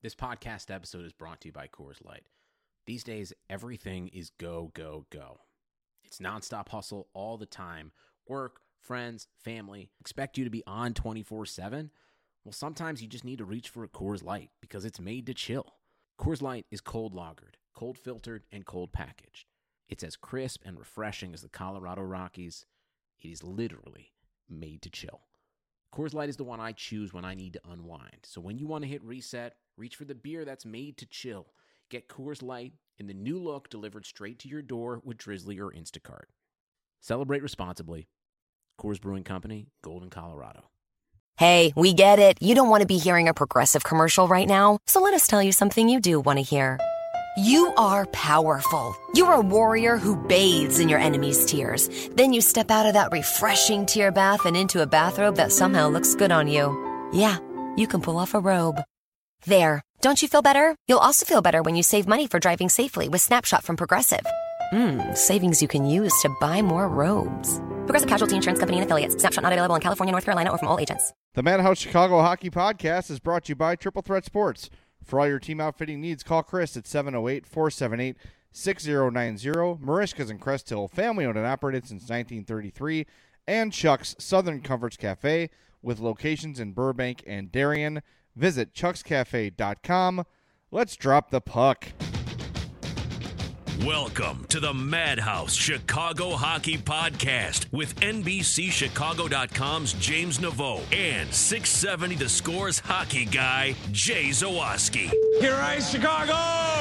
This podcast episode is brought to you by Coors Light. These days, everything is go, go, go. It's nonstop hustle all the time. Work, friends, family, expect you to be on 24/7. Well, sometimes you just need to reach for a Coors Light because it's made to chill. Coors Light is cold lagered, cold filtered, and cold packaged. It's as crisp and refreshing as the Colorado Rockies. It is literally made to chill. Coors Light is the one I choose when I need to unwind. So when you want to hit reset, reach for the beer that's made to chill. Get Coors Light in the new look delivered straight to your door with Drizzly or Instacart. Celebrate responsibly. Coors Brewing Company, Golden, Colorado. Hey, we get it. You don't want to be hearing a Progressive commercial right now. So let us tell you something you do want to hear. You are powerful. You're a warrior who bathes in your enemy's tears. Then you step out of that refreshing tear bath and into a bathrobe that somehow looks good on you. Yeah, you can pull off a robe. There. Don't you feel better? You'll also feel better when you save money for driving safely with Snapshot from Progressive. Savings you can use to buy more robes. Progressive Casualty Insurance Company and Affiliates. Snapshot not available in California, North Carolina, or from all agents. The Madhouse Chicago Hockey Podcast is brought to you by Triple Threat Sports. For all your team outfitting needs, call Chris at 708-478-6090. Marishka's in Crest Hill, family owned and operated since 1933. And Chuck's Southern Comforts Cafe with locations in Burbank and Darien. Visit chuckscafe.com. Let's drop the puck. Welcome to the Madhouse Chicago Hockey Podcast with NBCChicago.com's James Naveau and 670 The Score's hockey guy, Jay Zawaski. Here I Chicago!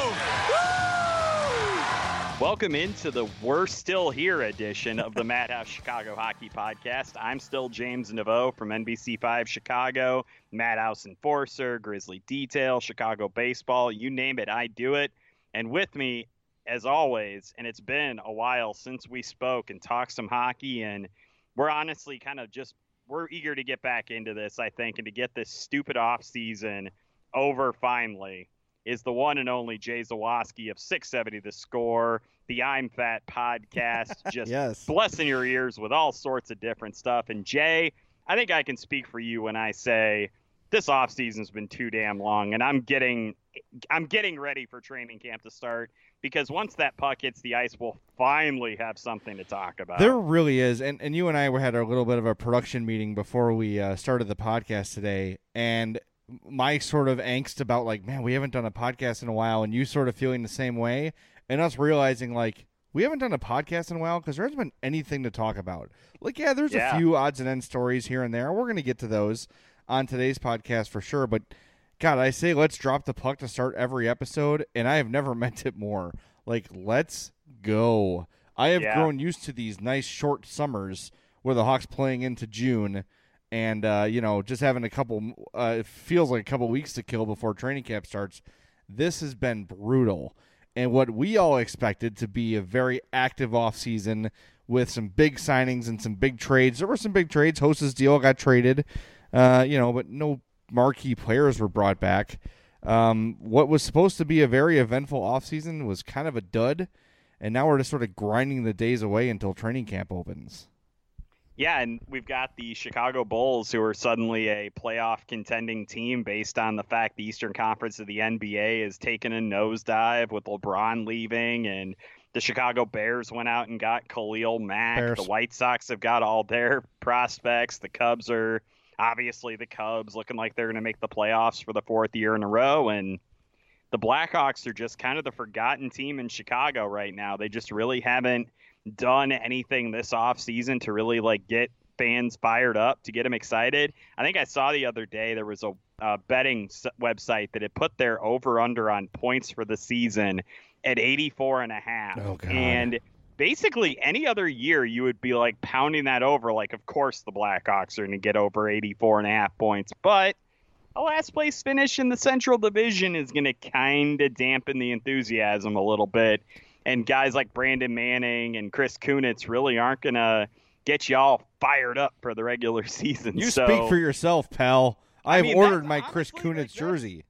Woo! Welcome into the We're Still Here edition of the Madhouse Chicago Hockey Podcast. I'm still James Naveau from NBC5 Chicago, Madhouse Enforcer, Grizzly Detail, Chicago Baseball, you name it, I do it. And with me, as always, and it's been a while since we spoke and talked some hockey, and we're honestly we're eager to get back into this, I think, and to get this stupid off season over finally, is the one and only Jay Zawaski of 670 The Score, the I'm Fat podcast, just Yes. Blessing your ears with all sorts of different stuff. And Jay, I think I can speak for you when I say this off season's been too damn long, and I'm getting ready for training camp to start. Because once that puck hits the ice, we'll finally have something to talk about. There really is. And you and I had a little bit of a production meeting before we started the podcast today. And my sort of angst about, like, man, we haven't done a podcast in a while. And you sort of feeling the same way. And us realizing, like, we haven't done a podcast in a while because there hasn't been anything to talk about. Like, yeah, there's a few odds and ends stories here and there. We're going to get to those on today's podcast for sure. But God, I say let's drop the puck to start every episode, and I have never meant it more. Like, let's go. I have grown used to these nice short summers where the Hawks playing into June and, just having it feels like a couple weeks to kill before training camp starts. This has been brutal. And what we all expected to be a very active offseason with some big signings and some big trades. There were some big trades. Host's deal got traded, but no marquee players were brought back. What was supposed to be a very eventful offseason was kind of a dud, and now we're just sort of grinding the days away until training camp opens. Yeah, and we've got the Chicago Bulls, who are suddenly a playoff contending team based on the fact the Eastern Conference of the NBA has taken a nosedive with LeBron leaving, and the Chicago Bears went out and got Khalil Mack. The White Sox have got all their prospects. The Cubs are obviously the Cubs looking like they're going to make the playoffs for the fourth year in a row. And the Blackhawks are just kind of the forgotten team in Chicago right now. They just really haven't done anything this offseason to really get fans fired up, to get them excited. I think I saw the other day there was a betting website that had put their over-under on points for the season at 84.5. Oh, God. And basically any other year you would be pounding that over, of course the Blackhawks are going to get over 84.5 points, but a last place finish in the Central Division is going to kind of dampen the enthusiasm a little bit, and guys like Brandon Manning and Chris Kunitz really aren't going to get you all fired up for the regular season. You speak for yourself, pal. I've ordered my Chris Kunitz jersey.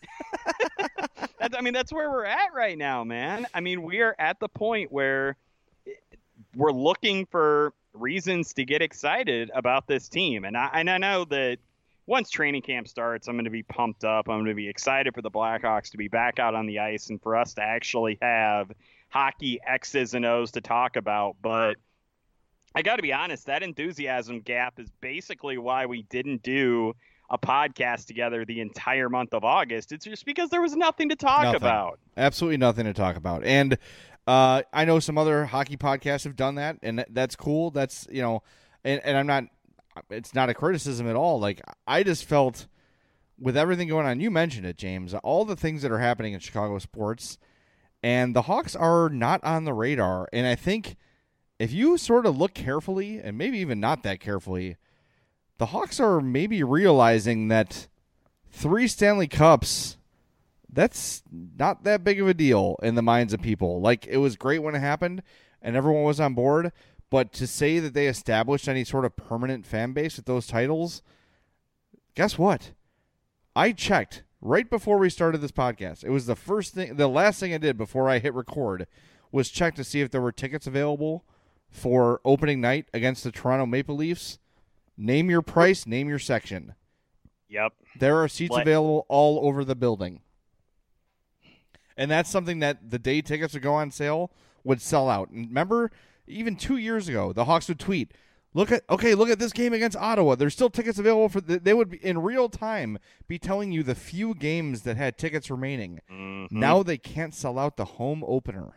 That's where we're at right now, man. We are at the point where we're looking for reasons to get excited about this team. And I know that once training camp starts, I'm going to be pumped up. I'm going to be excited for the Blackhawks to be back out on the ice and for us to actually have hockey X's and O's to talk about. But I got to be honest, that enthusiasm gap is basically why we didn't do a podcast together the entire month of August. It's just because there was nothing to talk about. Absolutely nothing to talk about. And I know some other hockey podcasts have done that, and that's cool. That's, and I'm not, it's not a criticism at all. Like, I just felt with everything going on, you mentioned it, James, all the things that are happening in Chicago sports, and the Hawks are not on the radar. And I think if you sort of look carefully, and maybe even not that carefully, the Hawks are maybe realizing that 3 Stanley Cups, that's not that big of a deal in the minds of people. Like, it was great when it happened and everyone was on board, but to say that they established any sort of permanent fan base with those titles, guess what? I checked right before we started this podcast. It was the last thing I did before I hit record was check to see if there were tickets available for opening night against the Toronto Maple Leafs. Name your price, name your section. Yep. There are seats available all over the building. And that's something that the day tickets would go on sale would sell out. And remember, even 2 years ago, the Hawks would tweet, look at this game against Ottawa. There's still tickets available for they would be, in real time be telling you the few games that had tickets remaining. Mm-hmm. Now they can't sell out the home opener.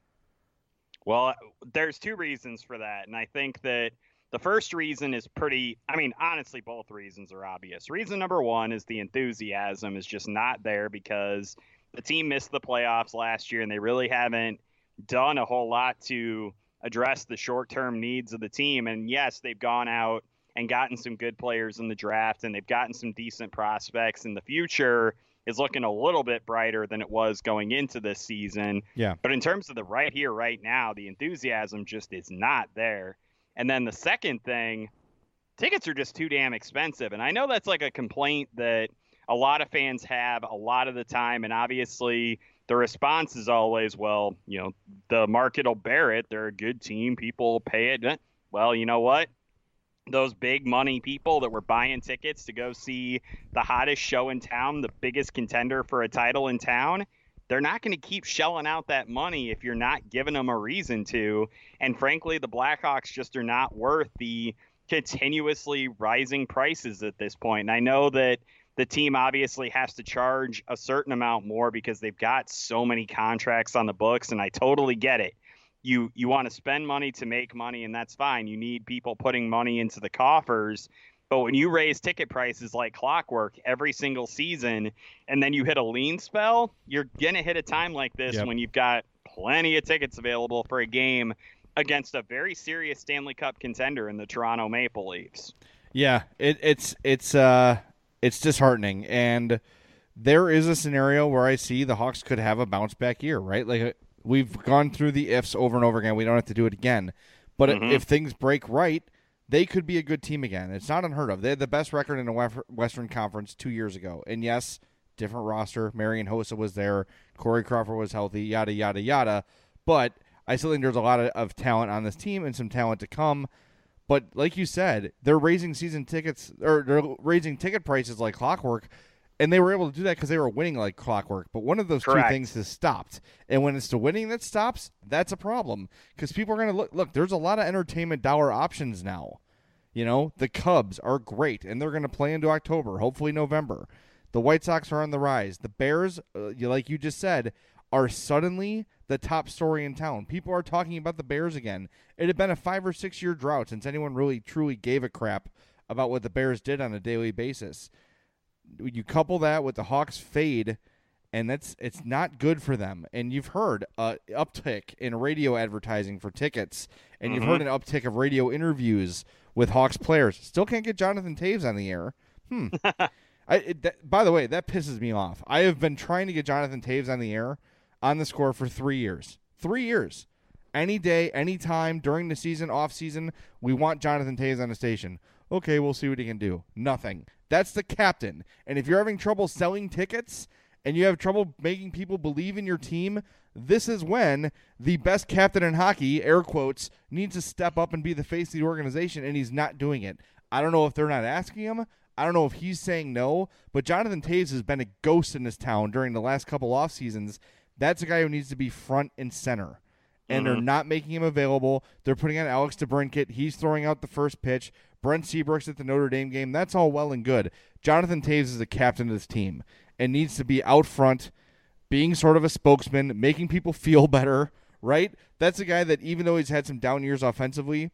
Well, there's 2 reasons for that. And I think that the first reason is honestly, both reasons are obvious. Reason number 1 is the enthusiasm is just not there because the team missed the playoffs last year and they really haven't done a whole lot to address the short-term needs of the team. And yes, they've gone out and gotten some good players in the draft and they've gotten some decent prospects, and the future is looking a little bit brighter than it was going into this season. Yeah. But in terms of the right here, right now, the enthusiasm just is not there. And then the second thing, tickets are just too damn expensive. And I know that's like a complaint that a lot of fans have a lot of the time. And obviously the response is always, well, the market will bear it. They're a good team. People pay it. Well, you know what? Those big money people that were buying tickets to go see the hottest show in town, the biggest contender for a title in town, they're not going to keep shelling out that money if you're not giving them a reason to. And frankly, the Blackhawks just are not worth the continuously rising prices at this point. And I know that the team obviously has to charge a certain amount more because they've got so many contracts on the books, and I totally get it. You want to spend money to make money, and that's fine. You need people putting money into the coffers. But when you raise ticket prices like clockwork every single season, and then you hit a lean spell, you're going to hit a time like this when you've got plenty of tickets available for a game against a very serious Stanley Cup contender in the Toronto Maple Leafs. Yeah, it's disheartening. And there is a scenario where I see the Hawks could have a bounce back year, right? Like, we've gone through the ifs over and over again. We don't have to do it again. But if things break right, they could be a good team again. It's not unheard of. They had the best record in the Western Conference 2 years ago. And yes, different roster. Marian Hossa was there. Corey Crawford was healthy, yada, yada, yada. But I still think there's a lot of talent on this team and some talent to come. But like you said, they're raising season tickets, or they're raising ticket prices like clockwork. And they were able to do that because they were winning like clockwork. But one of those two things has stopped. And when it's the winning that stops, that's a problem. Because people are going to look, there's a lot of entertainment dollar options now. The Cubs are great, and they're going to play into October, hopefully November. The White Sox are on the rise. The Bears, like you just said, are suddenly the top story in town. People are talking about the Bears again. It had been a 5 or 6 year drought since anyone really truly gave a crap about what the Bears did on a daily basis. You couple that with the Hawks fade, and it's not good for them. And you've heard an uptick in radio advertising for tickets, and you've heard an uptick of radio interviews with Hawks players. Still can't get Jonathan Toews on the air. By the way, that pisses me off. I have been trying to get Jonathan Toews on the air on the Score for 3 years. 3 years. Any day, any time, during the season, off season, we want Jonathan Toews on the station. Okay, we'll see what he can do. Nothing. That's the captain. And if you're having trouble selling tickets and you have trouble making people believe in your team, this is when the best captain in hockey, air quotes, needs to step up and be the face of the organization, and he's not doing it. I don't know if they're not asking him. I don't know if he's saying no, but Jonathan Toews has been a ghost in this town during the last couple off seasons. That's a guy who needs to be front and center. And they're not making him available. They're putting on Alex DeBrincat. He's throwing out the first pitch. Brent Seabrook's at the Notre Dame game. That's all well and good. Jonathan Toews is the captain of this team and needs to be out front, being sort of a spokesman, making people feel better, right? That's a guy that even though he's had some down years offensively,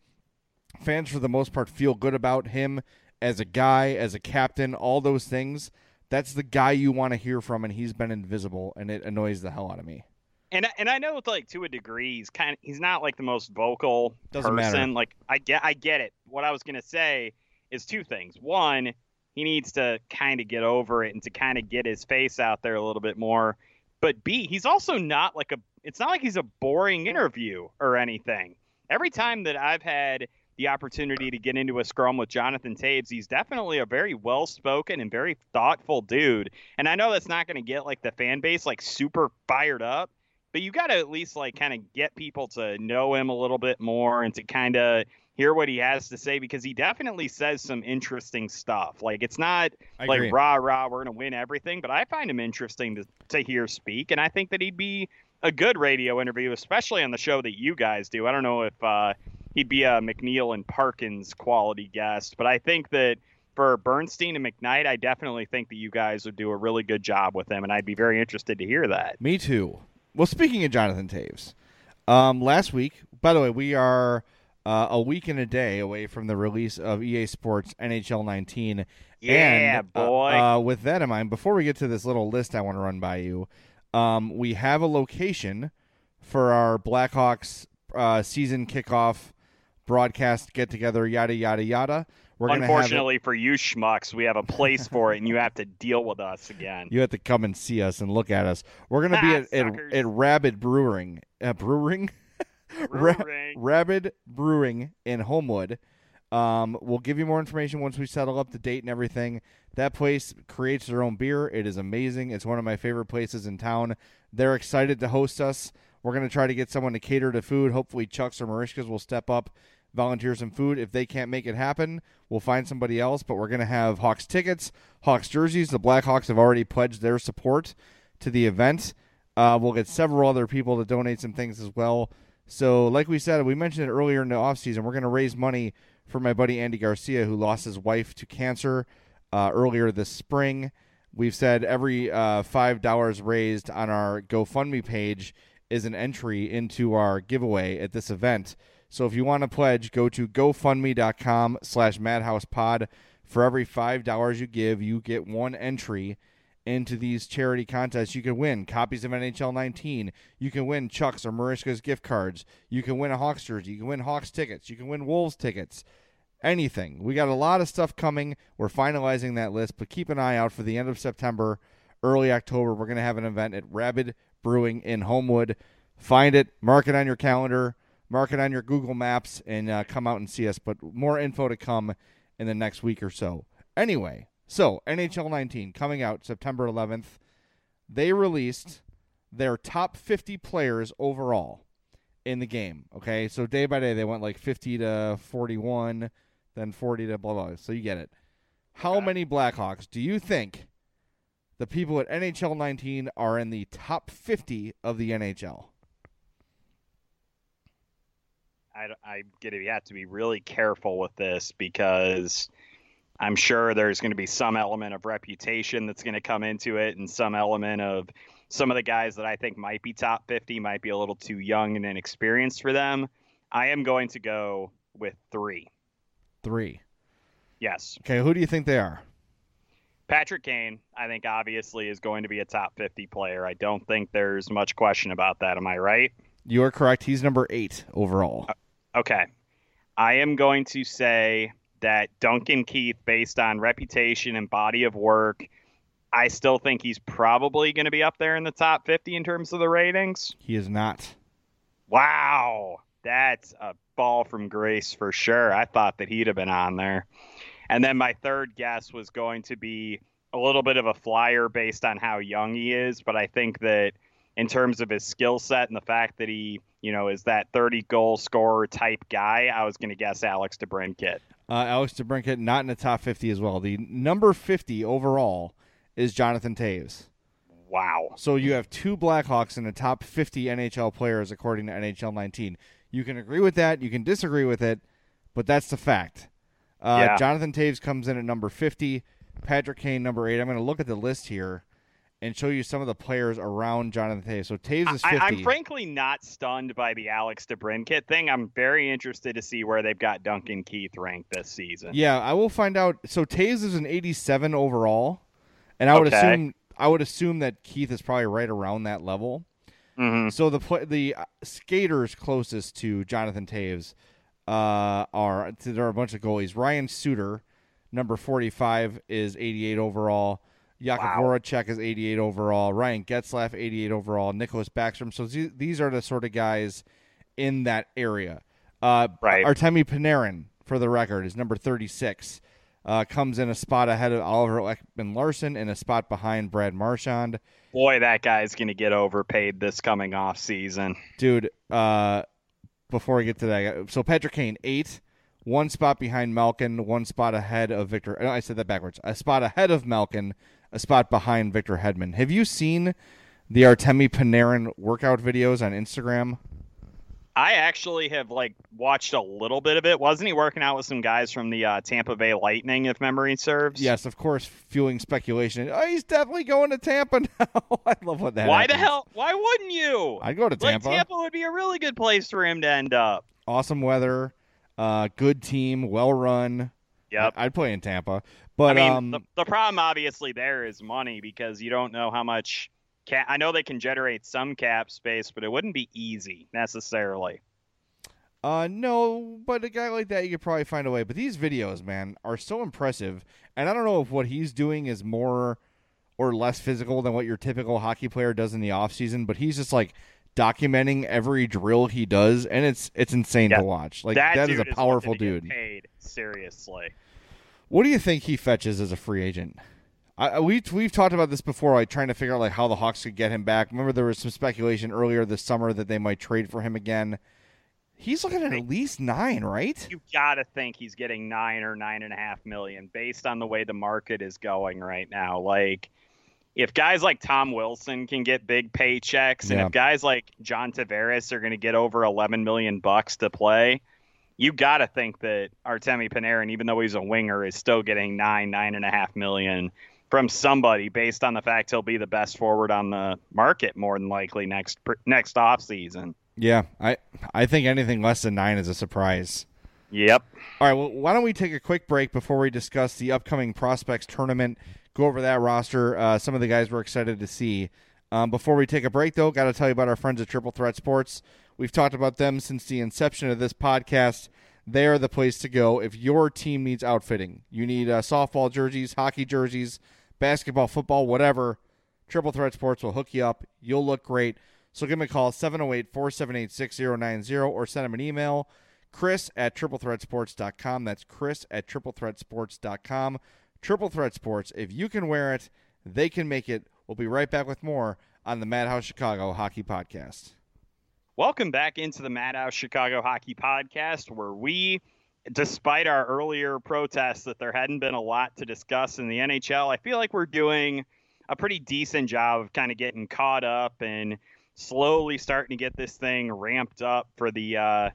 fans for the most part feel good about him as a guy, as a captain, all those things. That's the guy you want to hear from, and he's been invisible, and it annoys the hell out of me. And I know, like, to a degree, he's not like the most vocal Doesn't person. matter. Like, I get it. What I was gonna say is two things. One, he needs to kind of get over it and to kind of get his face out there a little bit more. But B, he's also not like it's not like he's a boring interview or anything. Every time that I've had the opportunity to get into a scrum with Jonathan Toews, he's definitely a very well-spoken and very thoughtful dude. And I know that's not going to get like the fan base like super fired up, but you got to at least like kind of get people to know him a little bit more and to kind of hear what he has to say, because he definitely says some interesting stuff. Like, it's not like rah, we're going to win everything, but I find him interesting to hear speak. And I think that he'd be a good radio interview, especially on the show that you guys do. I don't know if he'd be a McNeil and Parkins quality guest, but I think that for Bernstein and McKnight, I definitely think that you guys would do a really good job with him, and I'd be very interested to hear that. Me too. Well, speaking of Jonathan Toews, last week, by the way, we are a week and a day away from the release of EA Sports NHL 19. Yeah, and, boy. With that in mind, before we get to this little list I want to run by you, we have a location for our Blackhawks season kickoff broadcast get-together, yada, yada, yada. Unfortunately for you schmucks, we have a place for it, and you have to deal with us again. You have to come and see us and look at us. We're going to be at Rabid Brewing. Brewing? Rabid Brewing in Homewood. We'll give you more information once we settle up the date and everything. That place creates their own beer. It is amazing. It's one of my favorite places in town. They're excited to host us. We're going to try to get someone to cater to food. Hopefully Chucks or Marishkas will step up, volunteer some food. If they can't make it happen, we'll find somebody else. But we're going to have Hawks tickets, Hawks jerseys. The Blackhawks have already pledged their support to the event. We'll get several other people to donate some things as well. So like we said, we mentioned it earlier in the offseason, we're going to raise money for my buddy Andy Garcia, who lost his wife to cancer earlier this spring. We've said every $5 raised on our GoFundMe page is an entry into our giveaway at this event. So if you want to pledge, go to gofundme.com/madhousepod. For every $5 you give, you get one entry into these charity contests. You can win copies of NHL 19. You can win Chucks or Marishka's gift cards. You can win a Hawks jersey. You can win Hawks tickets. You can win Wolves tickets. Anything. We got a lot of stuff coming. We're finalizing that list, but keep an eye out for the end of September, early October. We're going to have an event at Rabid Brewing in Homewood. Find it, mark it on your calendar, mark it on your Google Maps, and come out and see us. But more info to come in the next week or so. Anyway, so NHL 19 coming out September 11th. They released their top 50 players overall in the game. Okay, so day by day they went like 50 to 41, then 40 to blah, blah. So you get it. How many Blackhawks do you think the people at NHL 19 are in the top 50 of the NHL? I'm going to have to be really careful with this, because I'm sure there's going to be some element of reputation that's going to come into it, and some element of some of the guys that I think might be top 50 might be a little too young and inexperienced for them. I am going to go with 3. 3. Yes. Okay, who do you think they are? Patrick Kane, I think, obviously is going to be a top 50 player. I don't think there's much question about that. Am I right? You are correct. He's number 8 overall. Okay. I am going to say that Duncan Keith, based on reputation and body of work, I still think he's probably going to be up there in the top 50 in terms of the ratings. He is not. Wow. That's a fall from grace for sure. I thought that he'd have been on there. And then my third guess was going to be a little bit of a flyer based on how young he is. But I think that in terms of his skill set and the fact that he, is that 30-goal scorer type guy, I was going to guess Alex DeBrincat. Alex DeBrincat not in the top 50 as well. The number 50 overall is Jonathan Toews. Wow. So you have two Blackhawks in the top 50 NHL players according to NHL 19. You can agree with that. You can disagree with it, but that's the fact. Jonathan Toews comes in at number 50. Patrick Kane, number 8. I'm going to look at the list here and show you some of the players around Jonathan Toews. So Toews is 50. I'm frankly not stunned by the Alex DeBrincat thing. I'm very interested to see where they've got Duncan Keith ranked this season. Yeah, I will find out. So Toews is an 87 overall, and I would assume that Keith is probably right around that level. Mm-hmm. So the skaters closest to Jonathan Toews there are a bunch of goalies. Ryan Suter, number 45, is 88 overall. Jakub Voracek is 88 overall. Ryan Getzlaf, 88 overall. Nicholas Backstrom. So these are the sort of guys in that area. Right. Artemi Panarin, for the record, is number 36. Comes in a spot ahead of Oliver Ekman-Larsson and a spot behind Brad Marchand. Boy, that guy's going to get overpaid this coming off season. Dude, before I get to that, so Patrick Kane, 8. One spot behind Malkin, one spot ahead of Victor. No, I said that backwards. A spot ahead of Malkin, a spot behind Victor Hedman. Have you seen the Artemi Panarin workout videos on Instagram? I actually have watched a little bit of it. Wasn't he working out with some guys from the Tampa Bay Lightning, if memory serves? Yes, of course, fueling speculation. Oh, he's definitely going to Tampa now. I love what that Why happens. the hell? Why wouldn't you? I'd go to Tampa. Tampa would be a really good place for him to end up. Awesome weather, good team, well run. Yep. I'd play in Tampa. But I mean, the problem obviously there is money, because you don't know how much I know they can generate some cap space, but it wouldn't be easy necessarily. No, but a guy like that, you could probably find a way. But these videos, man, are so impressive. And I don't know if what he's doing is more or less physical than what your typical hockey player does in the offseason, but he's just documenting every drill he does, and it's insane to watch. That is a powerful dude. Get paid, seriously. What do you think he fetches as a free agent? We've talked about this before, trying to figure out how the Hawks could get him back. Remember, there was some speculation earlier this summer that they might trade for him again. He's looking at least 9, right? You gotta think he's getting 9 or 9.5 million based on the way the market is going right now. If guys like Tom Wilson can get big paychecks, and if guys like John Tavares are going to get over $11 million to play, you got to think that Artemi Panarin, even though he's a winger, is still getting 9.5 million from somebody based on the fact he'll be the best forward on the market more than likely next offseason. Yeah, I think anything less than 9 is a surprise. Yep. All right, well, why don't we take a quick break before we discuss the upcoming Prospects tournament, go over that roster, some of the guys we're excited to see. Before we take a break, though, got to tell you about our friends at Triple Threat Sports. We've talked about them since the inception of this podcast. They are the place to go if your team needs outfitting. You need softball jerseys, hockey jerseys, basketball, football, whatever. Triple Threat Sports will hook you up. You'll look great. So give them a call, 708-478-6090, or send them an email, Chris@triplethreatsports.com. That's Chris@triplethreatsports.com. Triple Threat Sports. If you can wear it, they can make it. We'll be right back with more on the Madhouse Chicago Hockey Podcast. Welcome back into the Madhouse Chicago Hockey Podcast, where we, despite our earlier protests that there hadn't been a lot to discuss in the NHL, I feel like we're doing a pretty decent job of kind of getting caught up and slowly starting to get this thing ramped up for the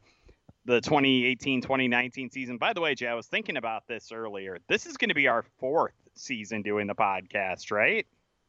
2018-2019 season. By the way, Jay, I was thinking about this earlier. This is going to be our 4th season doing the podcast, right?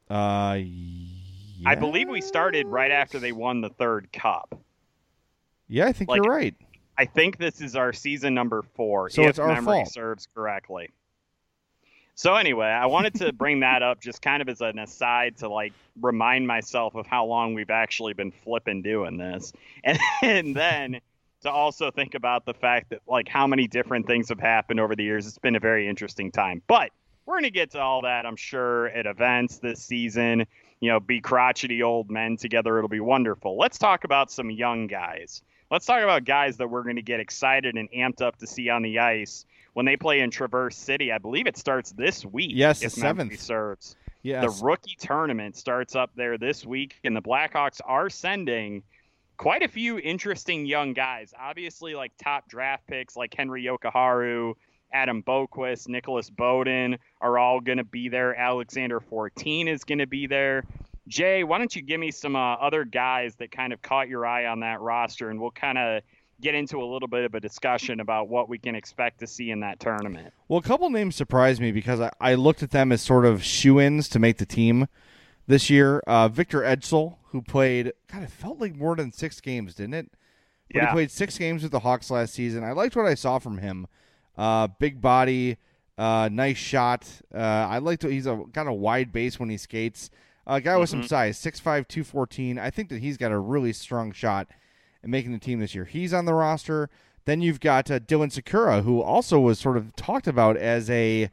Yes. I believe we started right after they won the 3rd cup. Yeah, I think you're right. I think this is our season number 4, so if it's our memory fault. serves correctly. So anyway, I wanted to bring that up just kind of as an aside to remind myself of how long we've actually been flipping doing this. And then to also think about the fact that how many different things have happened over the years. It's been a very interesting time. But we're going to get to all that, I'm sure, at events this season. Be crotchety old men together. It'll be wonderful. Let's talk about some young guys. Let's talk about guys that we're going to get excited and amped up to see on the ice when they play in Traverse City. I believe it starts this week. Yes, if the memory 7th. serves. Yes. The rookie tournament starts up there this week, and the Blackhawks are sending quite a few interesting young guys. Obviously, top draft picks like Henry Yokoharu, Adam Boquist, Nicholas Bowden are all going to be there. Alexander Fortin is going to be there. Jay, why don't you give me some other guys that kind of caught your eye on that roster, and we'll kind of get into a little bit of a discussion about what we can expect to see in that tournament. Well, a couple names surprised me because I looked at them as sort of shoo-ins to make the team this year. Victor Edsel, who played, God, it felt like more than 6 games, didn't it? But yeah. He played 6 games with the Hawks last season. I liked what I saw from him. Big body, nice shot. I liked he's got a wide base when he skates. A guy with some size, 6'5", 214. I think that he's got a really strong shot in making the team this year. He's on the roster. Then you've got Dylan Sakura, who also was sort of talked about as a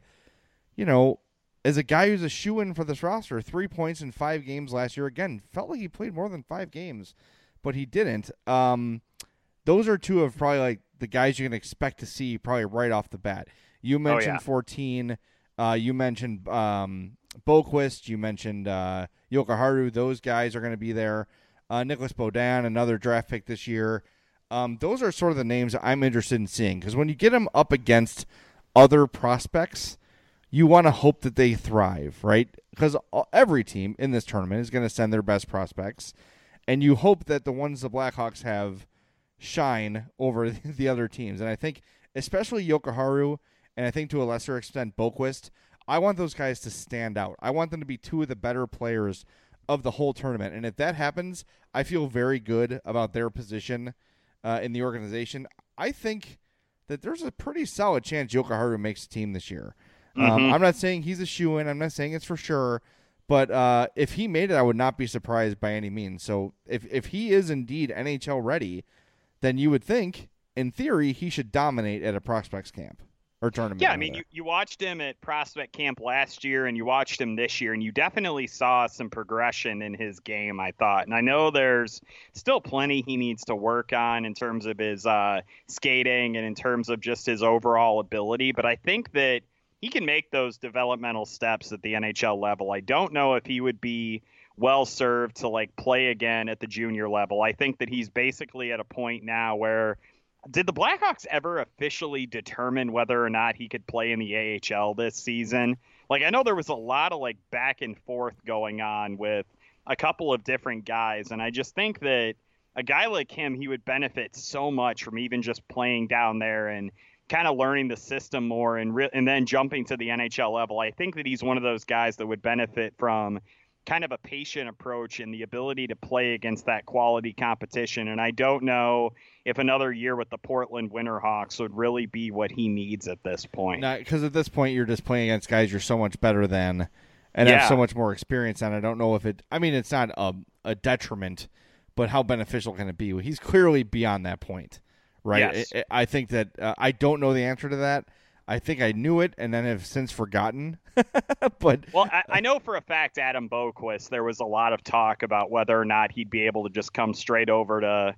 guy who's a shoo-in for this roster. 3 points in 5 games last year. Again, felt like he played more than 5 games, but he didn't. Those are 2 of probably like the guys you can expect to see probably right off the bat. You mentioned 14. You mentioned Boquist. You mentioned Jokiharju. Those guys are going to be there. Nicholas Bowden, another draft pick this year. Those are sort of the names I'm interested in seeing because when you get them up against other prospects, you want to hope that they thrive, right? Because every team in this tournament is going to send their best prospects, and you hope that the ones the Blackhawks have shine over the other teams. And I think especially Jokiharju, and I think to a lesser extent Boquist, I want those guys to stand out. I want them to be 2 of the better players of the whole tournament. And if that happens, I feel very good about their position in the organization. I think that there's a pretty solid chance Jokiharju makes the team this year. I'm not saying he's a shoo-in. I'm not saying it's for sure. But if he made it, I would not be surprised by any means. So if he is indeed NHL ready, then you would think, in theory, he should dominate at a prospects camp. Or tournament. Yeah, I mean, you watched him at prospect camp last year and you watched him this year, and you definitely saw some progression in his game, I thought. And I know there's still plenty he needs to work on in terms of his skating and in terms of just his overall ability, but I think that he can make those developmental steps at the NHL level. I don't know if he would be well served to like play again at the junior level. I think that he's basically at a point now where did the Blackhawks ever officially determine whether or not he could play in the AHL this season? Like, I know there was a lot of like back and forth going on with a couple of different guys. And I just think that a guy like him, he would benefit so much from even just playing down there and kind of learning the system more and then jumping to the NHL level. I think that he's one of those guys that would benefit from kind of a patient approach and the ability to play against that quality competition. And I don't know if another year with the Portland Winterhawks would really be what he needs at this point. Because at this point, you're just playing against guys you're so much better than and have so much more experience on. I don't know if it's not a detriment, but how beneficial can it be? He's clearly beyond that point, right? Yes. I think that I don't know the answer to that. I think I knew it and then have since forgotten. But I know for a fact Adam Boquist, there was a lot of talk about whether or not he'd be able to just come straight over to,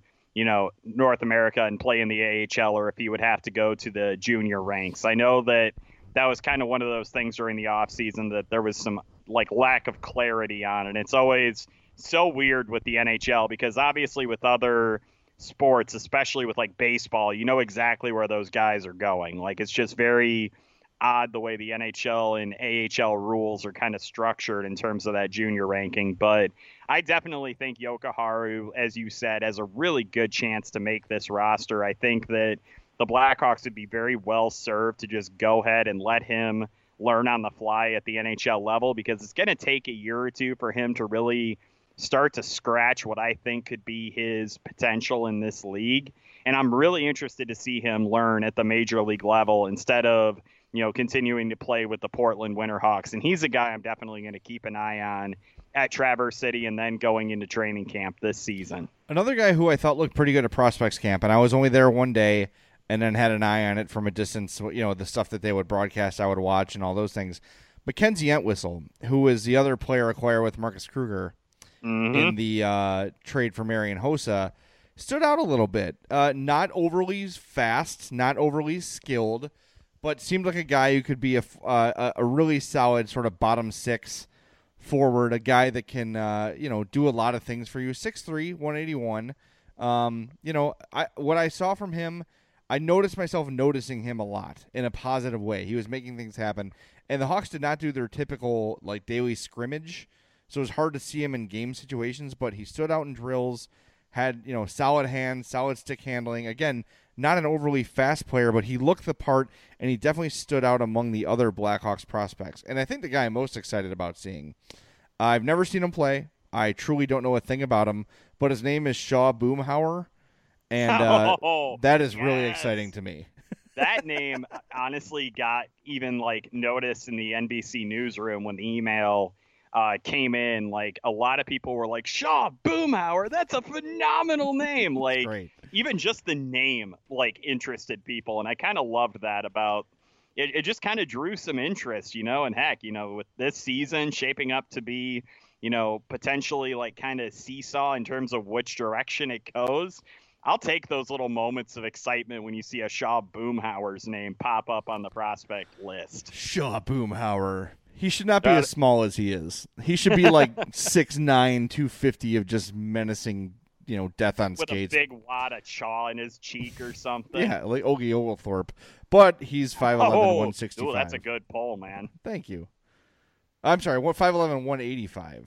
North America and play in the AHL, or if he would have to go to the junior ranks. I know that was kind of one of those things during the offseason that there was some like lack of clarity on. And it's always so weird with the NHL because obviously with other sports, especially with like baseball, you know exactly where those guys are going. Like it's just very odd the way the NHL and AHL rules are kind of structured in terms of that junior ranking. But I definitely think Jokiharju, as you said, has a really good chance to make this roster. I think that the Blackhawks would be very well served to just go ahead and let him learn on the fly at the NHL level because it's going to take a year or two for him to really start to scratch what I think could be his potential in this league. And I'm really interested to see him learn at the major league level instead of, continuing to play with the Portland Winterhawks. And he's a guy I'm definitely going to keep an eye on at Traverse City and then going into training camp this season. Another guy who I thought looked pretty good at Prospects Camp, and I was only there one day and then had an eye on it from a distance, the stuff that they would broadcast, I would watch and all those things. Mackenzie Entwistle, who is the other player acquired with Marcus Kruger in the trade for Marian Hossa, stood out a little bit. Not overly fast, not overly skilled, but seemed like a guy who could be a really solid sort of bottom six forward, a guy that can do a lot of things for you. 6'3", 181. What I saw from him, I noticed myself noticing him a lot in a positive way. He was making things happen. And the Hawks did not do their typical like daily scrimmage, so it was hard to see him in game situations, but he stood out in drills, had, solid hands, solid stick handling. Again, not an overly fast player, but he looked the part, and he definitely stood out among the other Blackhawks prospects. And I think the guy I'm most excited about seeing, I've never seen him play. I truly don't know a thing about him, but his name is Shaw Boomhauer, and that is really exciting to me. That name honestly got even like noticed in the NBC newsroom when the email came in. Like a lot of people were like, Shaw Boomhauer, that's a phenomenal name. Like Great. Even just the name like interested people. And I kind of loved that about it. It just kind of drew some interest, and heck, with this season shaping up to be, potentially like kind of seesaw in terms of which direction it goes. I'll take those little moments of excitement when you see a Shaw Boomhauer's name pop up on the prospect list. Shaw Boomhauer. He should not be as small as he is. He should be like 6'9", 250 of just menacing, death on skates. With a big wad of chaw in his cheek or something. Yeah, like Ogie Oglethorpe. But he's 5'11", 165. Ooh, that's a good pull, man. Thank you. I'm sorry, 5'11", 185.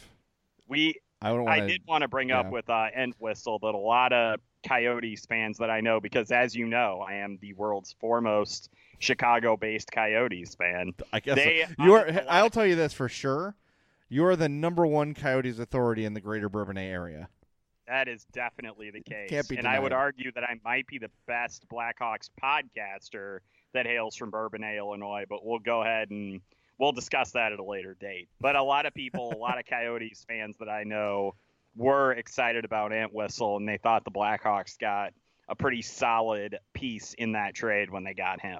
I did want to bring up with Entwistle that a lot of Coyotes fans that I know, because as you know, I am the world's foremost Chicago-based Coyotes fan. I guess I'll tell you this for sure. You are the number one Coyotes authority in the greater Bourbonnais area. That is definitely the case. Can't be denied. And I would argue that I might be the best Blackhawks podcaster that hails from Bourbonnais, Illinois, but we'll go ahead and we'll discuss that at a later date. But a lot of people, a lot of Coyotes fans that I know were excited about Entwistle, and they thought the Blackhawks got a pretty solid piece in that trade when they got him.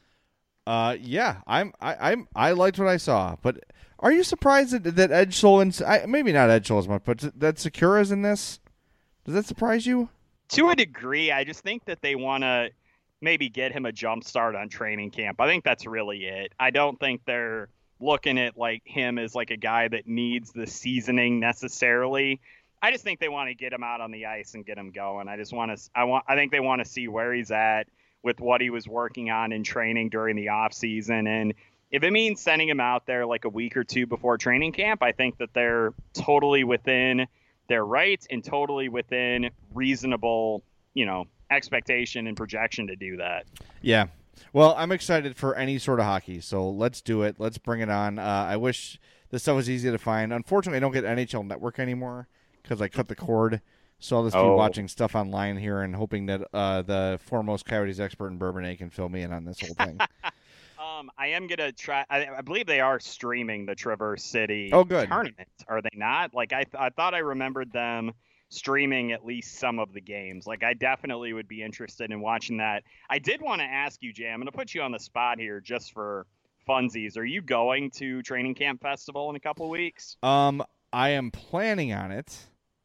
Yeah, I liked what I saw, but are you surprised that Edgel and maybe not Edgel as much, but that Sekura's in this? Does that surprise you? To a degree, I just think that they want to maybe get him a jump start on training camp. I think that's really it. I don't think they're looking at like him as like a guy that needs the seasoning necessarily. I just think they want to get him out on the ice and get him going. I think they want to see where he's at with what he was working on in training during the off season. And if it means sending him out there like a week or two before training camp, I think that they're totally within their rights and totally within reasonable, expectation and projection to do that. Yeah. Well, I'm excited for any sort of hockey, so let's do it. Let's bring it on. I wish this stuff was easy to find. Unfortunately, I don't get NHL Network anymore because I cut the cord. So I'll just be watching stuff online here and hoping that the foremost Coyotes expert in Bourbonnais can fill me in on this whole thing. I am going to try. I believe they are streaming the Traverse City tournament. Are they not? Like I thought I remembered them streaming at least some of the games. Like I definitely would be interested in watching that. I did want to ask you, Jay, I'm going to put you on the spot here just for funsies. Are you going to Training Camp Festival in a couple of weeks? I am planning on it.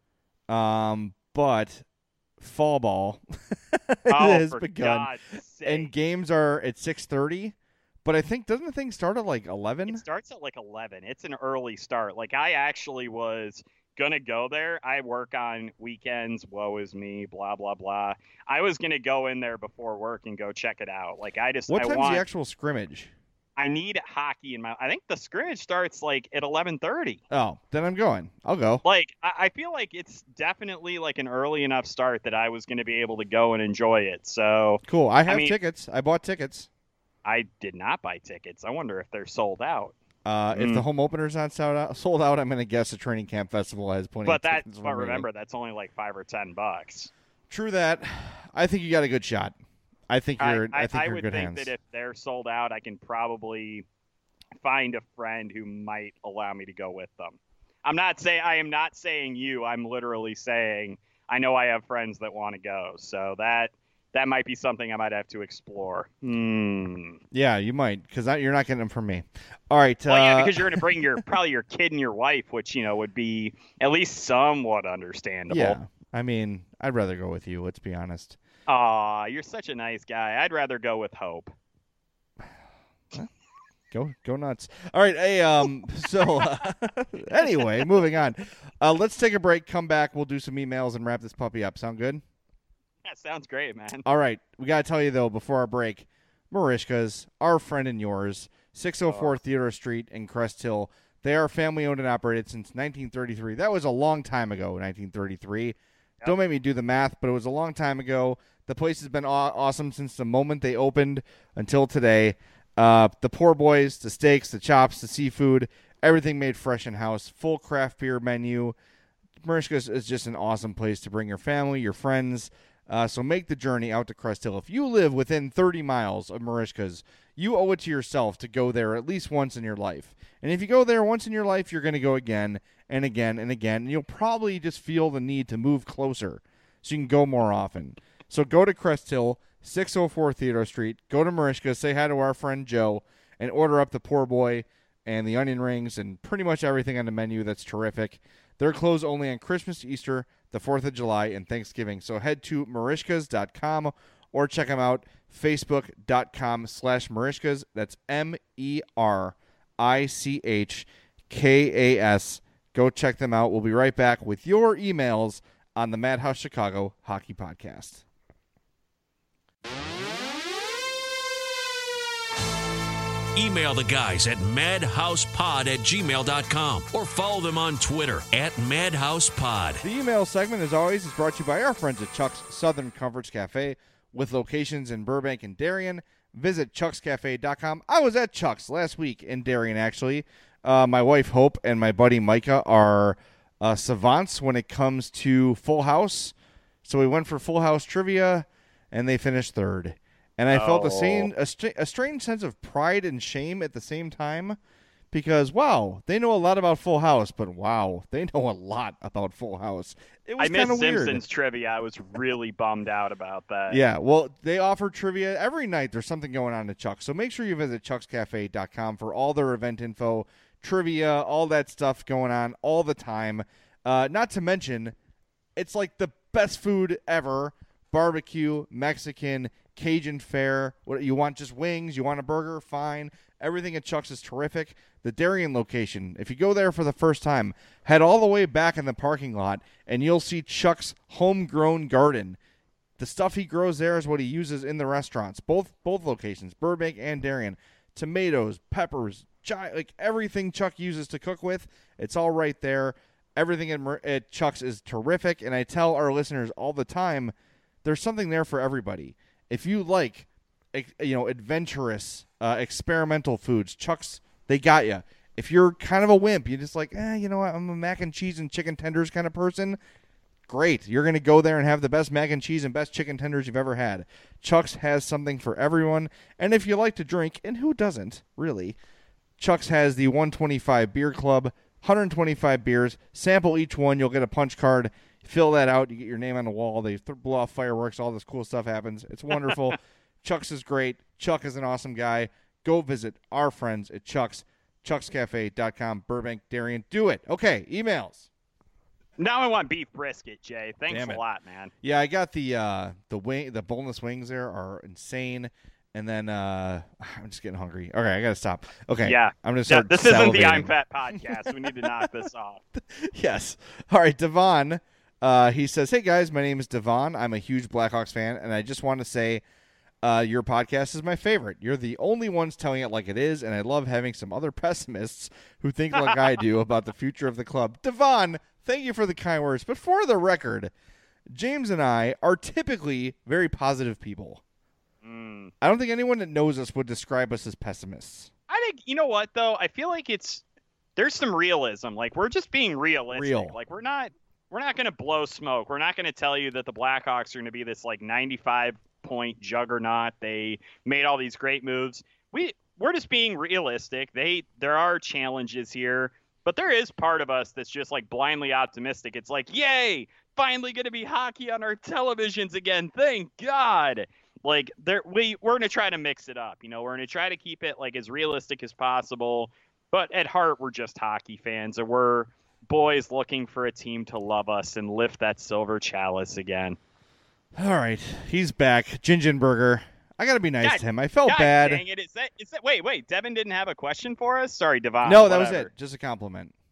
But fall ball has begun, and games are at 6:30. But I think doesn't the thing start at like 11? It starts at like 11. It's an early start. Like I actually was gonna go there. I work on weekends. Woe is me. Blah blah blah. I was gonna go in there before work and go check it out. Like what time's the actual scrimmage? I need hockey in my. I think the scrimmage starts like at 11:30. Oh, then I'm going. I'll go. Like I feel like it's definitely like an early enough start that I was going to be able to go and enjoy it. So cool. I have tickets. I bought tickets. I did not buy tickets. I wonder if they're sold out. If the home opener's not sold out, I'm going to guess the Training Camp Festival has plenty. But remember, that's only like $5 or $10. True that. I think you got a good shot. I think you're. I think you're in good hands. I would think that if they're sold out, I can probably find a friend who might allow me to go with them. I am not saying you. I'm literally saying I know I have friends that want to go. So that might be something I might have to explore. Yeah, you might, because you're not getting them from me. All right. Well, yeah, because you're going to bring probably your kid and your wife, which would be at least somewhat understandable. Yeah, I mean, I'd rather go with you. Let's be honest. Aw, you're such a nice guy. I'd rather go with Hope. Go nuts. All right. Hey, so anyway, moving on. Let's take a break, come back. We'll do some emails and wrap this puppy up. Sound good? That sounds great, man. All right. We got to tell you, though, before our break, Merichka's, our friend and yours, 604 Theodore Street in Crest Hill. They are family-owned and operated since 1933. That was a long time ago, 1933. Yep. Don't make me do the math, but it was a long time ago. The place has been awesome since the moment they opened until today. The poor boys, the steaks, the chops, the seafood, everything made fresh in-house, full craft beer menu. Merichka's is just an awesome place to bring your family, your friends. So make the journey out to Crest Hill. If you live within 30 miles of Merichka's, you owe it to yourself to go there at least once in your life. And if you go there once in your life, you're going to go again and again and again. And you'll probably just feel the need to move closer so you can go more often. So go to Crest Hill, 604 Theodore Street. Go to Merichka's, say hi to our friend Joe, and order up the poor boy and the onion rings and pretty much everything on the menu that's terrific. They're closed only on Christmas, Easter, the 4th of July, and Thanksgiving. So head to Merichkas.com or check them out, Facebook.com/Merichkas. That's MERICHKAS. Go check them out. We'll be right back with your emails on the Madhouse Chicago Hockey Podcast. Email the guys at madhousepod@gmail.com or follow them on Twitter @madhousepod. The email segment, as always, is brought to you by our friends at Chuck's Southern Comforts Cafe with locations in Burbank and Darien. Visit chuckscafe.com. I was at Chuck's last week in Darien, actually. My wife, Hope, and my buddy, Micah, are savants when it comes to Full House. So we went for Full House trivia, and they finished third. And I felt a strange sense of pride and shame at the same time because, wow, they know a lot about Full House, but wow, they know a lot about Full House. It was I missed weird. Simpsons trivia. I was really bummed out about that. Yeah, well, they offer trivia every night. There's something going on at Chuck's. So make sure you visit chuckscafe.com for all their event info, trivia, all that stuff going on all the time. Not to mention, it's like the best food ever. Barbecue, Mexican, Cajun fare. What you want? Just wings? You want a burger? Fine. Everything at Chuck's is terrific. The Darien location, if you go there for the first time, head all the way back in the parking lot, and you'll see Chuck's homegrown garden. The stuff he grows there is what he uses in the restaurants. Both locations, Burbank and Darien. Tomatoes, peppers, like everything Chuck uses to cook with, it's all right there. Everything at Chuck's is terrific, and I tell our listeners all the time, there's something there for everybody. If you like, adventurous, experimental foods, Chuck's, they got you. If you're kind of a wimp, you're just like, you know what, I'm a mac and cheese and chicken tenders kind of person, great. You're going to go there and have the best mac and cheese and best chicken tenders you've ever had. Chuck's has something for everyone. And if you like to drink, and who doesn't, really, Chuck's has the 125 Beer Club, 125 beers. Sample each one. You'll get a punch card. Fill that out. You get your name on the wall. They blow off fireworks. All this cool stuff happens. It's wonderful. Chuck's is great. Chuck is an awesome guy. Go visit our friends at Chuck's. chuckscafe.com, Burbank, Darien. Do it. Okay, emails. Now I want beef brisket, Jay. Thanks a lot, man. Yeah, I got the boneless wings there are insane. And then I'm just getting hungry. Okay, I got to stop. Okay. Yeah. I'm going to start this isn't the I'm Fat podcast. We need to knock this off. Yes. All right, Devon. He says, "Hey, guys, my name is Devon. I'm a huge Blackhawks fan, and I just want to say your podcast is my favorite. You're the only ones telling it like it is, and I love having some other pessimists who think like I do about the future of the club." Devon, thank you for the kind words. But for the record, James and I are typically very positive people. I don't think anyone that knows us would describe us as pessimists. I think, you know what, though? I feel like there's some realism. Like, we're just being realistic. Like, we're not going to blow smoke. We're not going to tell you that the Blackhawks are going to be this, like, 95-point juggernaut. They made all these great moves. We're just being realistic. There are challenges here, but there is part of us that's just, like, blindly optimistic. It's like, yay, finally going to be hockey on our televisions again. Thank God. Like, we're going to try to mix it up. You know, we're going to try to keep it, like, as realistic as possible. But at heart, we're just hockey fans. And we're boys looking for a team to love us and lift that silver chalice again. All right. He's back. Gingenberger. I got to be nice to him. I felt bad. Dang it. Is that, wait, Devin didn't have a question for us? Sorry, Devon. No, that was it. Just a compliment.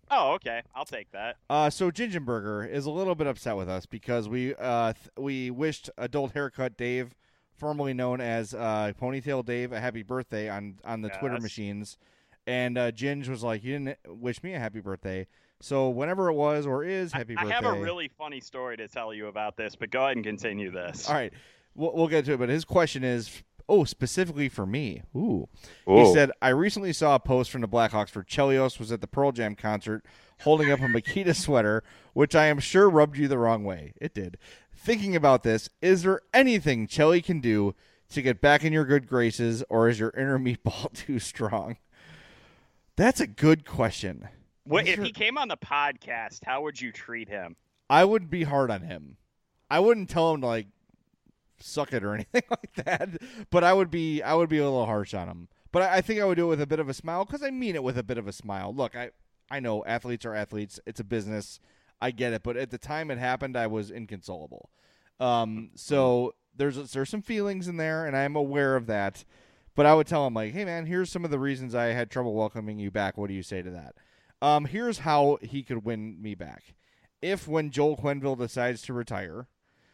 Oh, okay. I'll take that. So Gingenberger is a little bit upset with us because we wished Adult Haircut Dave, formerly known as Ponytail Dave, a happy birthday on the Twitter machines. And Ginge was like, you didn't wish me a happy birthday. So whenever it was or is happy birthday. I have a really funny story to tell you about this, but go ahead and continue this. All right. We'll get to it. But his question is, specifically for me. Ooh. Ooh. He said, I recently saw a post from the Blackhawks for Chelios was at the Pearl Jam concert holding up a Makita sweater, which I am sure rubbed you the wrong way. It did. Thinking about this, is there anything Chelly can do to get back in your good graces, or is your inner meatball too strong? That's a good question. If he came on the podcast, how would you treat him? I would be hard on him. I wouldn't tell him to, like, suck it or anything like that, but I would be a little harsh on him. But I think I would do it with a bit of a smile, because I mean it with a bit of a smile. Look, I know athletes are athletes. It's a business. I get it. But at the time it happened, I was inconsolable. So there's some feelings in there, and I'm aware of that. But I would tell him, like, hey, man, here's some of the reasons I had trouble welcoming you back. What do you say to that? Here's how he could win me back. If when Joel Quenneville decides to retire,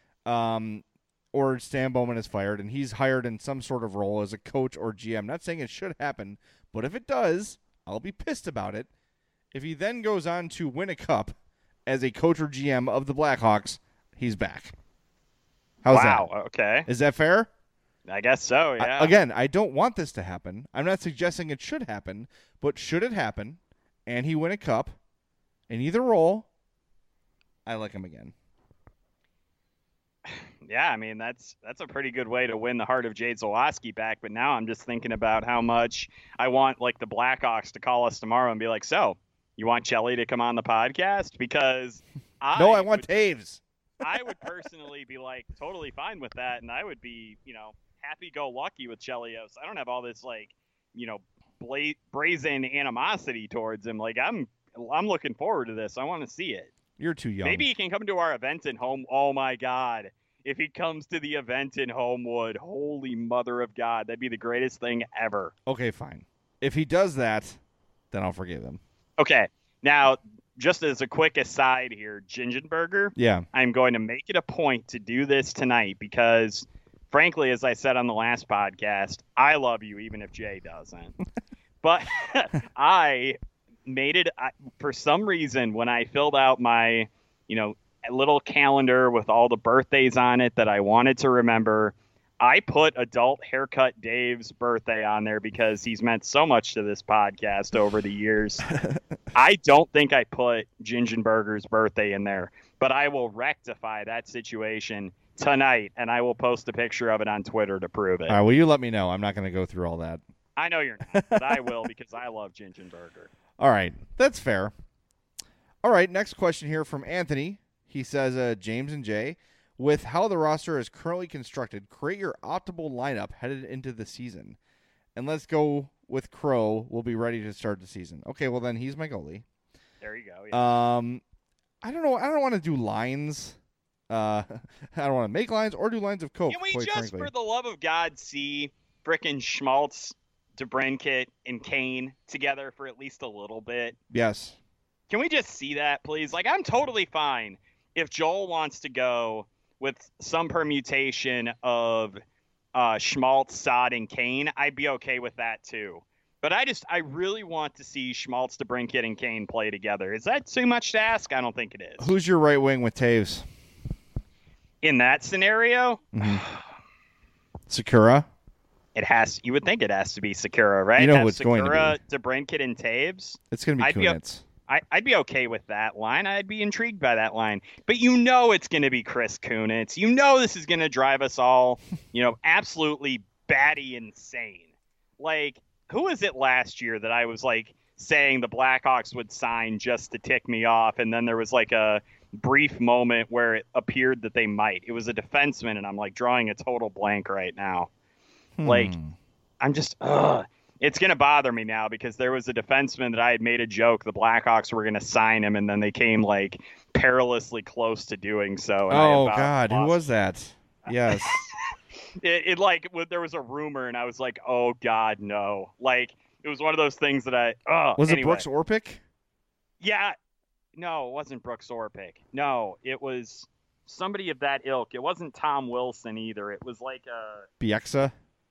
or Stan Bowman is fired, and he's hired in some sort of role as a coach or GM. Not saying it should happen, but if it does, I'll be pissed about it. If he then goes on to win a cup as a coach or GM of the Blackhawks, he's back. How's that? Wow, okay. Is that fair? I guess so, yeah. Again, I don't want this to happen. I'm not suggesting it should happen, but should it happen, and he win a cup in either role, I like him again. Yeah, I mean, that's a pretty good way to win the heart of Jay Zawaski back. But now I'm just thinking about how much I want, like, the Blackhawks to call us tomorrow and be like, so, you want Chelly to come on the podcast? Because I want Taves. I would personally be, like, totally fine with that, and I would be, happy-go-lucky with Chelios. I don't have all this, like, brazen animosity towards him. Like, I'm looking forward to this. I want to see it. You're too young. Maybe he can come to our event in home. Oh, my God. If he comes to the event in Homewood, holy mother of God, that'd be the greatest thing ever. Okay, fine. If he does that, then I'll forgive him. Okay. Now, just as a quick aside here, Gingenberger, yeah, I'm going to make it a point to do this tonight because, frankly, as I said on the last podcast, I love you even if Jay doesn't. But I made it, for some reason, when I filled out my, little calendar with all the birthdays on it that I wanted to remember, I put Adult Haircut Dave's birthday on there because he's meant so much to this podcast over the years. I don't think I put Gingenberger's birthday in there, but I will rectify that situation tonight, and I will post a picture of it on Twitter to prove it. All right, well, you let me know. I'm not going to go through all that. I know you're not, but I will because I love Gingenberger. All right, that's fair. All right, next question here from Anthony. He says, James and Jay, with how the roster is currently constructed, create your optimal lineup headed into the season. And let's go with Crow. We'll be ready to start the season. Okay, well, then he's my goalie. There you go. Yeah. I don't know. I don't want to do lines. I don't want to make lines or do lines of Coke. Can we just, frankly, for the love of God, see frickin' Schmaltz, DeBrincat, and Kane together for at least a little bit? Yes. Can we just see that, please? Like, I'm totally fine if Joel wants to go with some permutation of Schmaltz, Saad, and Kane. I'd be okay with that too. But I really want to see Schmaltz, DeBrincat, and Kane play together. Is that too much to ask? I don't think it is. Who's your right wing with Taves? In that scenario, Sakura. You would think it has to be Sakura, right? You know who it's going to be. DeBrincat, and Taves. It's going to be Kunitz. I'd be okay with that line. I'd be intrigued by that line. But it's going to be Chris Kunitz. This is going to drive us all, absolutely batty insane. Like, who was it last year that I was, like, saying the Blackhawks would sign just to tick me off, and then there was, like, a brief moment where it appeared that they might. It was a defenseman, and I'm, like, drawing a total blank right now. Like, I'm just, it's going to bother me now because there was a defenseman that I had made a joke the Blackhawks were going to sign him, and then they came, like, perilously close to doing so. Oh, God. Who was that? Yes. There was a rumor, and I was like, oh, God, no. Like, it was one of those things that Was it Brooks Orpik? Yeah, no, it wasn't Brooks Orpik. No, it was somebody of that ilk. It wasn't Tom Wilson either. It was like a Bieksa?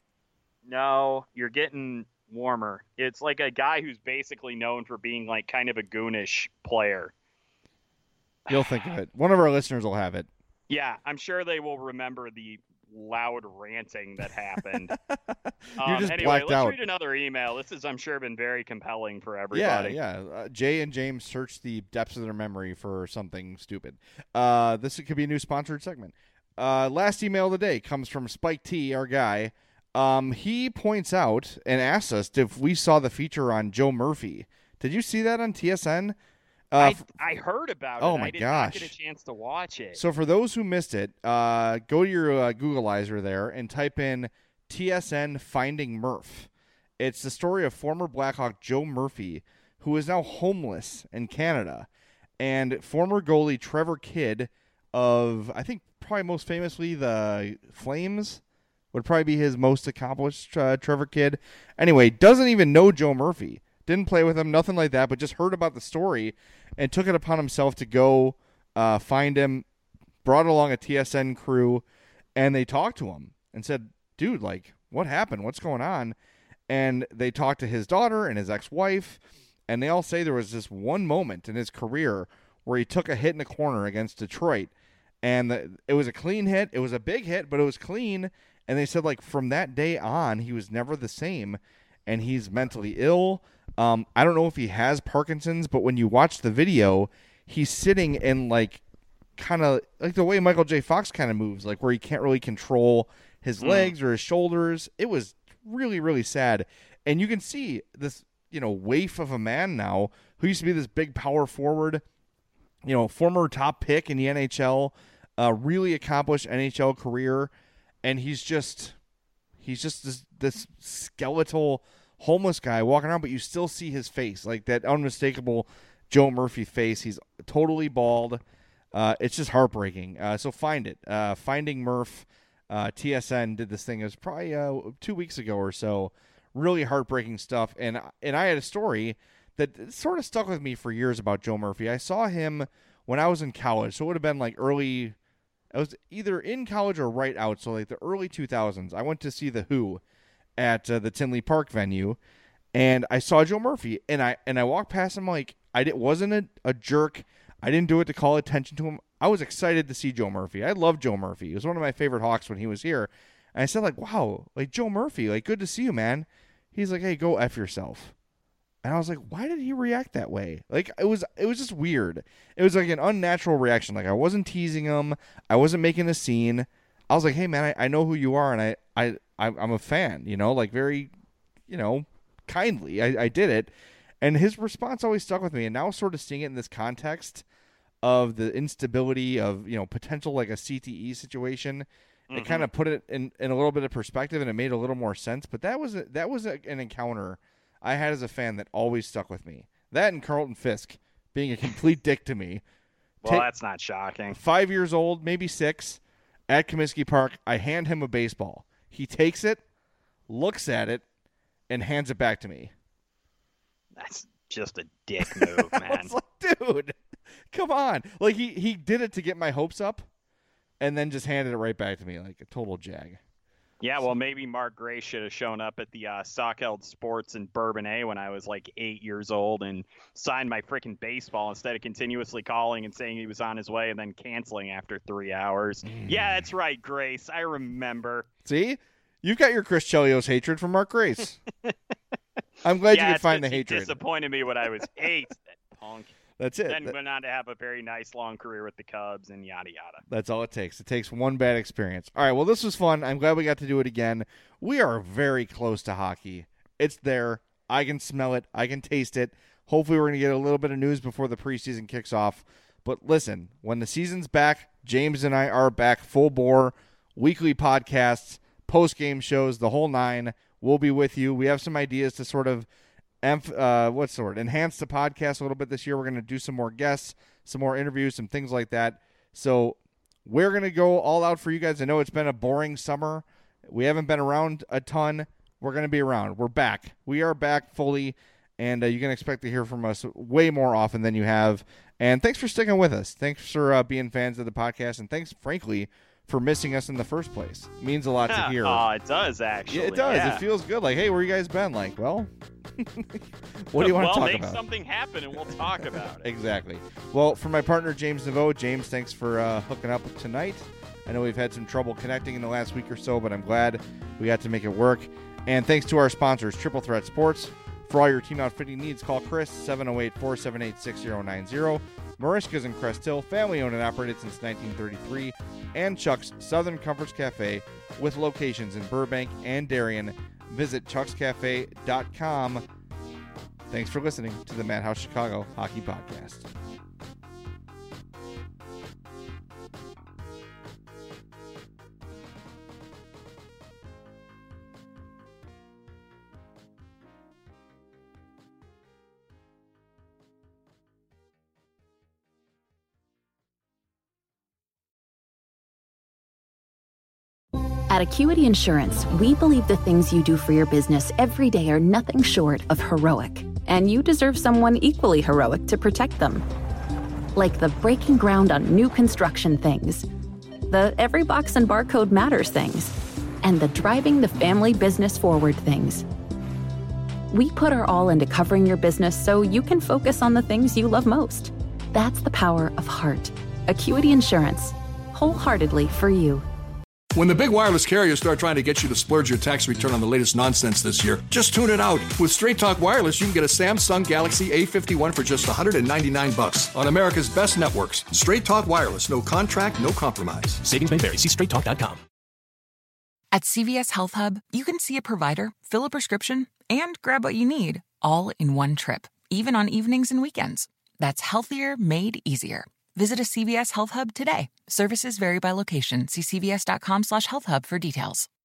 no. You're getting warmer. It's like a guy who's basically known for being like kind of a goonish player. You'll think of it. One of our listeners will have it. Yeah, I'm sure they will remember the loud ranting that happened. You're just anyway, blacked let's out. read another email. This has, I'm sure, been very compelling for everybody. Yeah. Jay and James search the depths of their memory for something stupid. This could be a new sponsored segment. Last email of the day comes from Spike T, our guy. He points out and asks us if we saw the feature on Joe Murphy. Did you see that on TSN? I heard about it. Oh, my I did gosh. not get a chance to watch it. So for those who missed it, go to your Googleizer there and type in TSN Finding Murph. It's the story of former Blackhawk Joe Murphy, who is now homeless in Canada, and former goalie Trevor Kidd of, I think probably most famously the Flames, would probably be his most accomplished, Trevor Kidd. Anyway, doesn't even know Joe Murphy. Didn't play with him, nothing like that, but just heard about the story and took it upon himself to go find him, brought along a TSN crew, and they talked to him and said, dude, like, what happened? What's going on? And they talked to his daughter and his ex-wife, and they all say there was this one moment in his career where he took a hit in the corner against Detroit, and it was a clean hit. It was a big hit, but it was clean, and they said, like, from that day on, he was never the same, and he's mentally ill. I don't know if he has Parkinson's, but when you watch the video, he's sitting in, like, kind of like the way Michael J. Fox kind of moves, like where he can't really control his legs or his shoulders. It was really, really sad. And you can see this, waif of a man now who used to be this big power forward, former top pick in the NHL, really accomplished NHL career. And he's just this skeletal homeless guy walking around, but you still see his face, like that unmistakable Joe Murphy face. He's totally bald. It's just heartbreaking. So find it. Finding Murph. TSN did this thing. It was probably 2 weeks ago or so. Really heartbreaking stuff. And I had a story that sort of stuck with me for years about Joe Murphy. I saw him when I was in college, so it would have been like early. I was either in college or right out, so like the early 2000s. I went to see The Who at the Tinley Park venue, and I saw Joe Murphy, and I walked past him like wasn't a jerk. I didn't do it to call attention to him. I was excited to see Joe Murphy. I love Joe Murphy. He was one of my favorite Hawks when he was here. And I said, like, wow, like, Joe Murphy, like, good to see you, man. He's like, hey, go F yourself. And I was like, why did he react that way? Like, it was just weird. It was like an unnatural reaction. Like, I wasn't teasing him. I wasn't making a scene. I was like, hey, man, I know who you are, and I'm a fan, like, very, kindly. I did it. And his response always stuck with me. And now sort of seeing it in this context of the instability of, potential like a CTE situation, it kind of put it in a little bit of perspective, and it made a little more sense. But that was an encounter I had as a fan that always stuck with me. That and Carlton Fisk being a complete dick to me. Well, that's not shocking. 5 years old, maybe 6, at Comiskey Park. I hand him a baseball. He takes it, looks at it, and hands it back to me. That's just a dick move, man. I was like, dude, come on. Like, he did it to get my hopes up, and then just handed it right back to me like a total jag. Yeah, well, maybe Mark Gray should have shown up at the Stockeld Sports in Bourbonnais when I was like 8 years old and signed my freaking baseball instead of continuously calling and saying he was on his way and then canceling after 3 hours. Yeah, that's right, Grace. I remember. See? You've got your Chris Chelios hatred for Mark Grace. I'm glad you could find the hatred. He disappointed me when I was 8, that punk. That's it. Then went on to have a very nice long career with the Cubs and yada yada. That's all it takes. It takes one bad experience. All right, well, this was fun. I'm glad we got to do it again. We are very close to hockey. It's there. I can smell it. I can taste it. Hopefully we're going to get a little bit of news before the preseason kicks off. But listen, when the season's back, James and I are back full bore. Weekly podcasts, post-game shows, the whole nine. We'll be with you. We have some ideas to sort of enhance the podcast a little bit this year. We're going to do some more guests, some more interviews, some things like that. So we're going to go all out for you guys. I know it's been a boring summer. We haven't been around a ton. We're going to be around. We're back. We are back fully. and you can expect to hear from us way more often than you have. And thanks for sticking with us. Thanks for being fans of the podcast, and thanks, frankly, for missing us in the first place. It means a lot to hear. Oh, it does, actually. Yeah, it does. Yeah. It feels good. Like, hey, where you guys been? Like, well, what do you want to talk about? Well, make something happen, and we'll talk about it. Exactly. Well, for my partner, James Neveau. James, thanks for hooking up tonight. I know we've had some trouble connecting in the last week or so, but I'm glad we got to make it work. And thanks to our sponsors, Triple Threat Sports. For all your team outfitting needs, call Chris, 708-478-6090. Marishka's in Crest Hill, family owned and operated since 1933. And Chuck's Southern Comforts Cafe with locations in Burbank and Darien. Visit chuckscafe.com. Thanks for listening to the Madhouse Chicago Hockey Podcast. At Acuity Insurance, we believe the things you do for your business every day are nothing short of heroic, and you deserve someone equally heroic to protect them. Like the breaking ground on new construction things, the every box and barcode matters things, and the driving the family business forward things. We put our all into covering your business so you can focus on the things you love most. That's the power of heart. Acuity Insurance, wholeheartedly for you. When the big wireless carriers start trying to get you to splurge your tax return on the latest nonsense this year, just tune it out. With Straight Talk Wireless, you can get a Samsung Galaxy A51 for just $199 on America's best networks. Straight Talk Wireless, no contract, no compromise. Savings may vary. See straighttalk.com. At CVS Health Hub, you can see a provider, fill a prescription, and grab what you need, all in one trip, even on evenings and weekends. That's healthier made easier. Visit a CVS Health Hub today. Services vary by location. See cvs.com/healthhub for details.